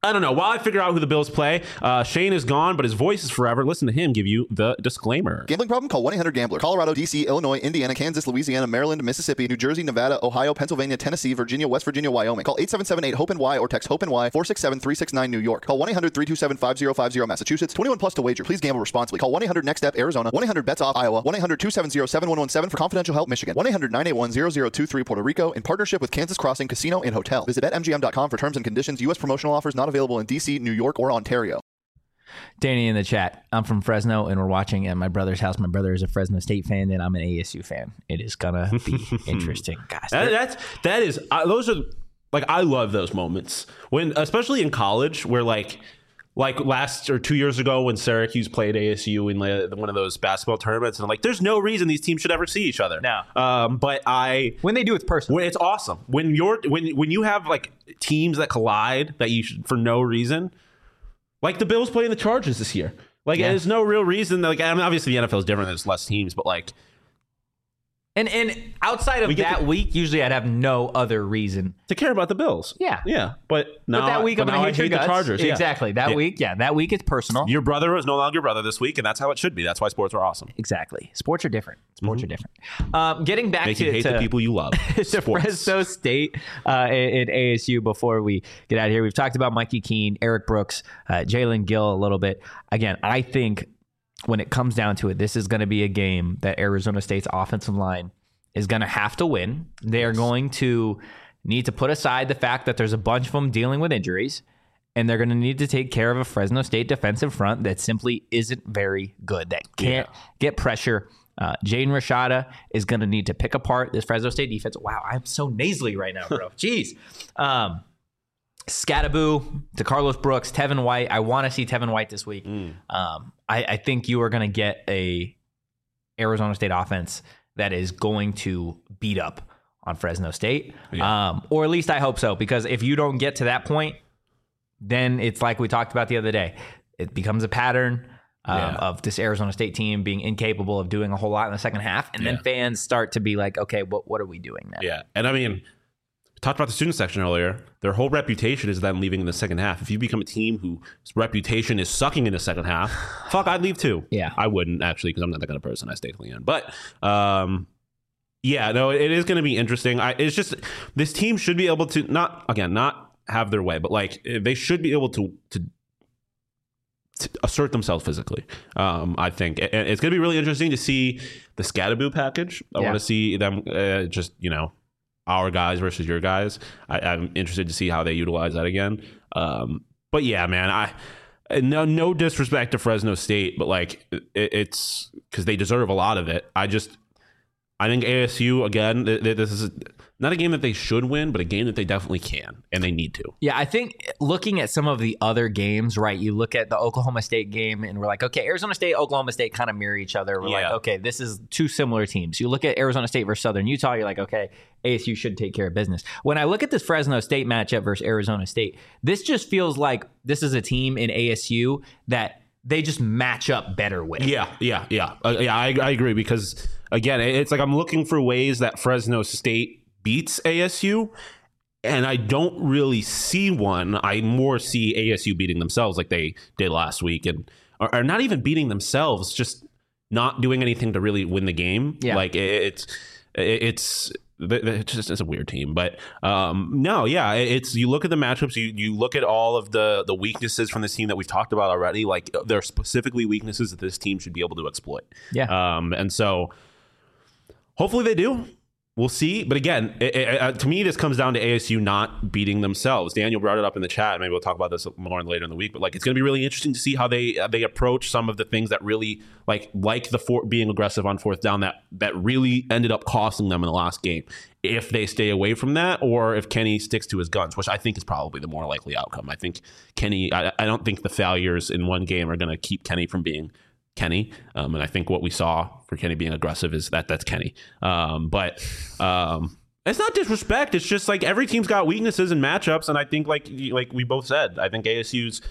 I don't know. While I figure out who the Bills play, Shane is gone, but his voice is forever. Listen to him give you the disclaimer. Gambling problem? Call 1-800-GAMBLER. Colorado, D.C., Illinois, Indiana, Kansas, Louisiana, Maryland, Mississippi, New Jersey, Nevada, Ohio, Pennsylvania, Tennessee, Virginia, West Virginia, Wyoming. Call 877-8-HOPE-NY or text HOPE-NY 467-369 New York. Call 1-800-327-5050 Massachusetts. 21 plus to wager. Please gamble responsibly. Call 1-800-NEXT-STEP Arizona. 1-800-BETS-OFF Iowa. 1-800-270-7117 for confidential help Michigan. 1-800-981-0023 Puerto Rico in partnership with Kansas Crossing Casino and Hotel. Visit BetMGM.com for terms and conditions. U.S. promotional offers not available in D.C., New York, or Ontario. Danny in the chat. I'm from Fresno, and we're watching at my brother's house. My brother is a Fresno State fan, and I'm an ASU fan. It is gonna be interesting, guys. Those are like, I love those moments when, especially in college, where like last or 2 years ago when Syracuse played ASU in one of those basketball tournaments, and I'm like, there's no reason these teams should ever see each other. No. But when they do, it's personal. It's awesome. When you have like teams that collide that you should, for no reason, like the Bills playing the Chargers this year. Like, there's no real reason. Like, I mean, obviously the NFL is different. There's less teams, but like. And outside of that week, usually I'd have no other reason to care about the Bills. Yeah. But that week I'm going to hate the Chargers. Exactly. That week, that week it's personal. Your brother is no longer your brother this week, and that's how it should be. That's why sports are awesome. Exactly. Sports are different. Sports are different. Getting back Make you hate the people you love. to Fresno State and ASU before we get out of here. We've talked about Mikey Keene, Eric Brooks, Jalen Gill a little bit. Again, I think when it comes down to it, this is going to be a game that Arizona State's offensive line is going to have to win. They are going to need to put aside the fact that there's a bunch of them dealing with injuries, and they're going to need to take care of a Fresno State defensive front that simply isn't very good, that can't get pressure. Jaden Rashada is going to need to pick apart this Fresno State defense. Wow, I'm so nasally right now, bro. Jeez. Scattaboo to Carlos Brooks, Tevin White. I want to see Tevin White this week. I think you are going to get a Arizona State offense that is going to beat up on Fresno State. Or at least I hope so, because if you don't get to that point, then it's like we talked about the other day. It becomes a pattern of this Arizona State team being incapable of doing a whole lot in the second half. And then fans start to be like, okay, what are we doing now? Yeah. And I mean, talked about the student section earlier. Their whole reputation is them leaving in the second half. If you become a team whose reputation is sucking in the second half, I'd leave too. Yeah, I wouldn't actually, because I'm not that kind of person. I stay till the end. But it is going to be interesting. It's just, this team should be able to not have their way, but like they should be able to assert themselves physically. I think it's going to be really interesting to see the Scattaboo package. I want to see them our guys versus your guys. I'm interested to see how they utilize that again. But yeah, man, no disrespect to Fresno State, but like it's because they deserve a lot of it. I think ASU, again, this is not a game that they should win, but a game that they definitely can, and they need to. Yeah, I think looking at some of the other games, right, you look at the Oklahoma State game, and we're like, okay, Arizona State, Oklahoma State kind of mirror each other. We're like, okay, this is two similar teams. You look at Arizona State versus Southern Utah, you're like, okay, ASU should take care of business. When I look at this Fresno State matchup versus Arizona State, this just feels like this is a team in ASU that they just match up better with. I agree, because again, it's like I'm looking for ways that Fresno State beats ASU, and I don't really see one. I more see ASU beating themselves like they did last week, and or not even beating themselves, just not doing anything to really win the game. Yeah. Like it's just a weird team. But it's, you look at the matchups, you look at all of the weaknesses from this team that we've talked about already. Like, there are specifically weaknesses that this team should be able to exploit. And so hopefully they do. We'll see. But again, to me, this comes down to ASU not beating themselves. Daniel brought it up in the chat. Maybe we'll talk about this more later in the week. But like, it's going to be really interesting to see how they approach some of the things that really like the being aggressive on fourth down that really ended up costing them in the last game. If they stay away from that, or if Kenny sticks to his guns, which I think is probably the more likely outcome. I think Kenny. I don't think the failures in one game are going to keep Kenny from being Kenny, and I think what we saw for Kenny being aggressive is that's Kenny. But it's not disrespect. It's just like every team's got weaknesses and matchups, and I think like we both said, I think ASU's.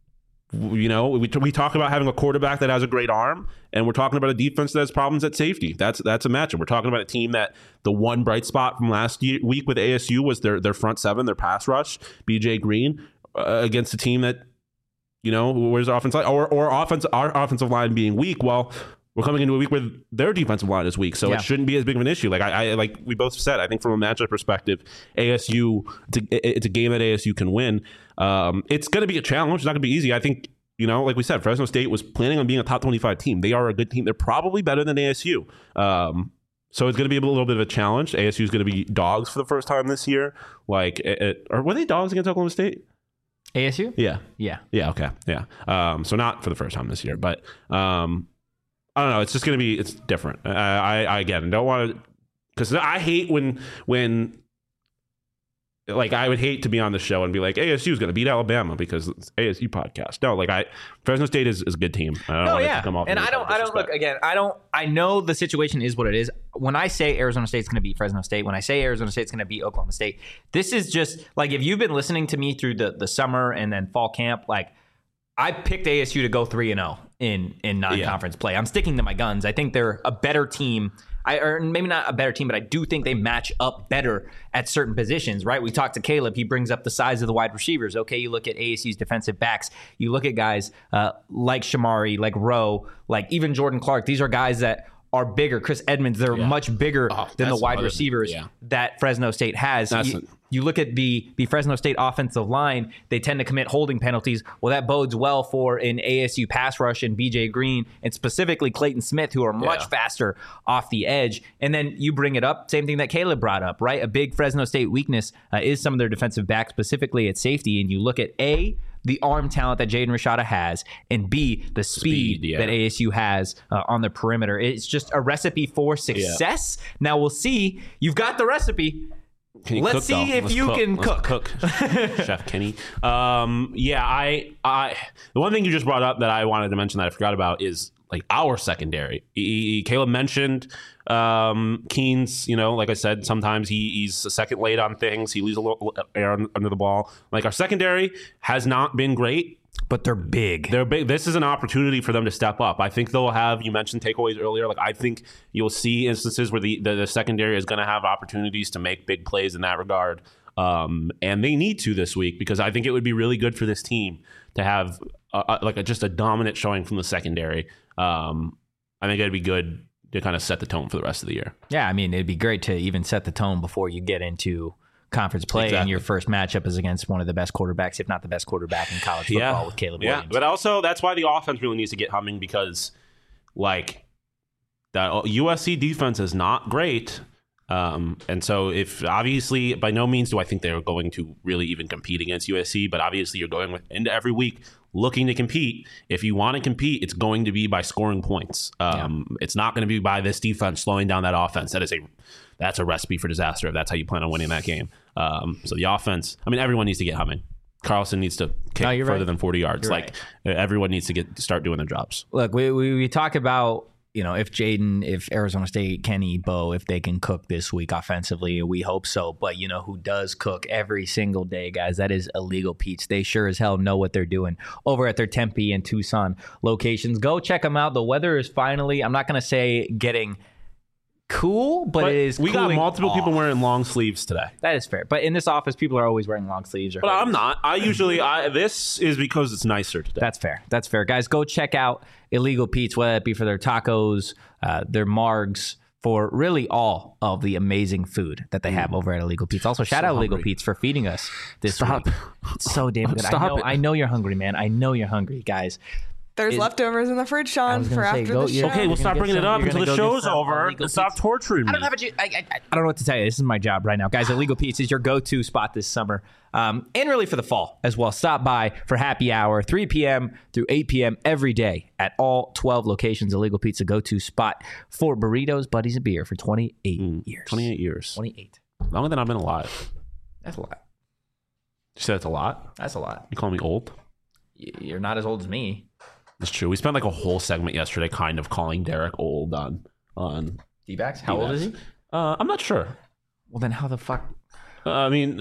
We talk about having a quarterback that has a great arm, and we're talking about a defense that has problems at safety. That's a matchup. We're talking about a team that the one bright spot from last week with ASU was their front seven, their pass rush. BJ Green against a team that, where's our offensive line our offensive line being weak. Well, we're coming into a week where their defensive line is weak, so it shouldn't be as big of an issue. Like like we both said, I think from a matchup perspective, ASU, it's a game that ASU can win. It's going to be a challenge. It's not going to be easy. I think, like we said, Fresno State was planning on being a top 25 team. They are a good team. They're probably better than ASU. So it's going to be a little bit of a challenge. ASU is going to be dogs for the first time this year. Or were they dogs against Oklahoma State? ASU? Yeah. Yeah. Okay. Yeah. So not for the first time this year, but I don't know. It's just going to be, it's different. I again, don't want to, because I hate when like, I would hate to be on the show and be like, ASU is going to beat Alabama because it's ASU podcast. No, Fresno State is a good team. I don't want it to come off. And I don't look again. I know the situation is what it is. When I say Arizona State's going to beat Fresno State, when I say Arizona State's going to beat Oklahoma State, this is just like, if you've been listening to me through the summer and then fall camp, like, I picked ASU to go 3-0 in non-conference play. I'm sticking to my guns. I think they're a better team. Or maybe not a better team, but I do think they match up better at certain positions, right? We talked to Caleb. He brings up the size of the wide receivers. Okay, you look at ASU's defensive backs. You look at guys like Shamari, like Rowe, like even Jordan Clark. These are guys that are bigger. Chris Edmonds, they're much bigger than the wide receivers that Fresno State has. You look at the Fresno State offensive line, they tend to commit holding penalties. Well, that bodes well for an ASU pass rush and BJ Green, and specifically Clayton Smith, who are much faster off the edge. And then you bring it up, same thing that Caleb brought up, right? A big Fresno State weakness is some of their defensive backs, specifically at safety. And you look at the arm talent that Jaden Rashada has, and B, the speed that ASU has on the perimeter. It's just a recipe for success. Now we'll see. You've got the recipe. Let's see if you can cook. Chef Kenny. The one thing you just brought up that I wanted to mention that I forgot about is like our secondary. Caleb mentioned Keen's, like I said, sometimes he's a second late on things. He leaves a little air under the ball. Like, our secondary has not been great. But they're big. They're big. This is an opportunity for them to step up. I think they'll have, you mentioned takeaways earlier. Like, I think you'll see instances where the secondary is going to have opportunities to make big plays in that regard. And they need to this week, because I think it would be really good for this team to have just a dominant showing from the secondary. I think it'd be good to kind of set the tone for the rest of the year. Yeah, I mean, it'd be great to even set the tone before you get into conference play, and your first matchup is against one of the best quarterbacks, if not the best quarterback in college football, with Caleb Williams. But also that's why the offense really needs to get humming, because like that USC defense is not great. And so if obviously, by no means do I think they're going to really even compete against USC, but obviously you're going into every week looking to compete. If you want to compete, it's going to be by scoring points. It's not going to be by this defense slowing down that offense. That's a recipe for disaster if that's how you plan on winning that game. So the offense, I mean, everyone needs to get humming. Carlson needs to kick further than 40 yards. Everyone needs to start doing their jobs. Look, we talk about, if Jaden, if Arizona State, Kenny, Bo, if they can cook this week offensively, we hope so. But who does cook every single day, guys? That is Illegal Pete's. They sure as hell know what they're doing over at their Tempe and Tucson locations. Go check them out. The weather is finally, I'm not going to say getting cool, but it is. We got multiple people wearing long sleeves today. That is fair. But in this office, people are always wearing long sleeves. But I'm not. This is because it's nicer today. That's fair. Guys, go check out Illegal Pete's, whether it be for their tacos, their margs, for really all of the amazing food that they have over at Illegal Pete's. Also, shout out Illegal Pete's for feeding us this week. It's so damn good. I know you're hungry, man. I know you're hungry, guys. There's leftovers in the fridge, Sean, for after the show. Okay, we'll stop bringing it up until the show's over. Stop torturing me. I don't know what to tell you. This is my job right now. Guys, Illegal Pete's is your go-to spot this summer. And really for the fall as well. Stop by for happy hour, 3 p.m. through 8 p.m. every day at all 12 locations. Illegal Pete's, a go-to spot for burritos, buddies, and beer for 28 years. 28 years. 28. Longer than I've been alive. That's a lot. You said that's a lot? That's a lot. You call me old? You're not as old as me. It's true. We spent like a whole segment yesterday kind of calling Derek old on D-backs? How old is he? I'm not sure. Well, then how the fuck? I mean,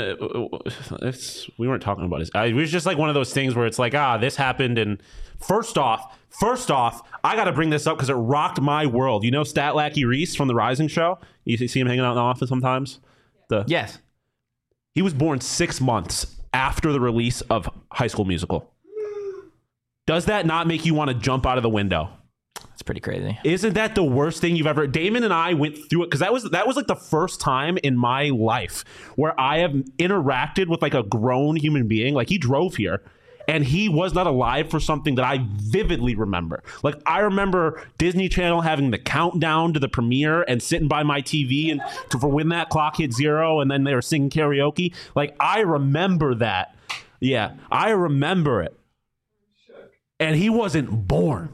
we weren't talking about it was just like one of those things where it's like, this happened. And first off, I got to bring this up because it rocked my world. You know Stat Lackey Reese from The Rising Show? You see him hanging out in the office sometimes? Yes. He was born 6 months after the release of High School Musical. Does that not make you want to jump out of the window? It's pretty crazy. Isn't that the worst thing you've ever... Damon and I went through it because that was like the first time in my life where I have interacted with like a grown human being. Like, he drove here and he was not alive for something that I vividly remember. Like, I remember Disney Channel having the countdown to the premiere and sitting by my TV and for when that clock hit 0 and then they were singing karaoke. Like, I remember that. Yeah, I remember it. And he wasn't born.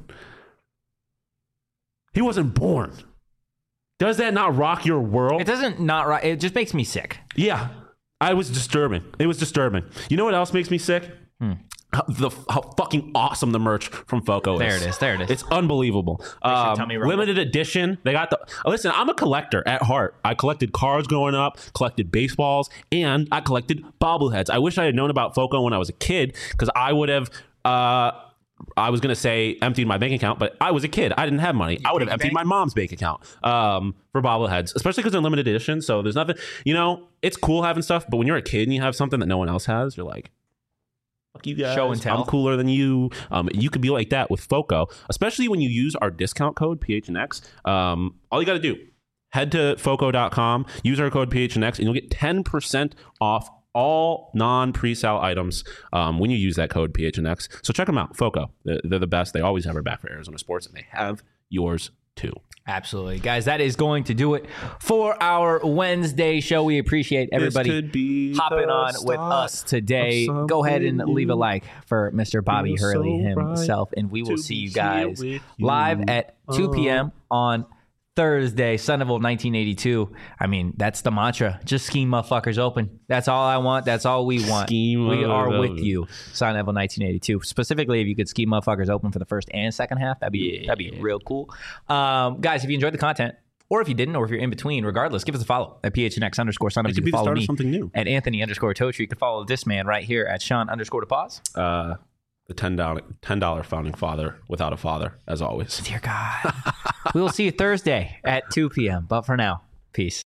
He wasn't born. Does that not rock your world? It doesn't not rock. It just makes me sick. Yeah. It was disturbing. You know what else makes me sick? How fucking awesome the merch from FOCO is. There it is. It's unbelievable. Limited edition. They got listen, I'm a collector at heart. I collected cards growing up, collected baseballs, and I collected bobbleheads. I wish I had known about FOCO when I was a kid, because I would have I was going to say emptied my bank account, but I was a kid. I didn't have money. I would have emptied my mom's bank account for bobbleheads, especially because they're limited edition. So there's nothing, it's cool having stuff. But when you're a kid and you have something that no one else has, you're like, fuck you guys. Show and tell. I'm cooler than you. You could be like that with FOCO, especially when you use our discount code PHNX. All you got to do, head to FOCO.com, use our code PHNX, and you'll get 10% off all non-presale items when you use that code PHNX. So check them out, FOCO. They're the best. They always have our back for Arizona sports, and they have yours too. Absolutely. Guys, that is going to do it for our Wednesday show. We appreciate everybody hopping on with us today. Go ahead and leave a like for Mr. Bobby Hurley himself, and we will see you guys live at 2 p.m. on Thursday, Son of 1982. I mean, that's the mantra. Just scheme motherfuckers open. That's all I want. That's all we want. We are with you, Son of 1982. Specifically, if you could scheme motherfuckers open for the first and second half, that'd be real cool. Guys, if you enjoyed the content, or if you didn't, or if you're in between, regardless, give us a follow at PHNX_Son. You can follow me at Anthony_Totri. You can follow this man right here at Sean_DePaz. The $10 founding father without a father, as always. Dear God. We will see you Thursday at 2 p.m. But for now, peace.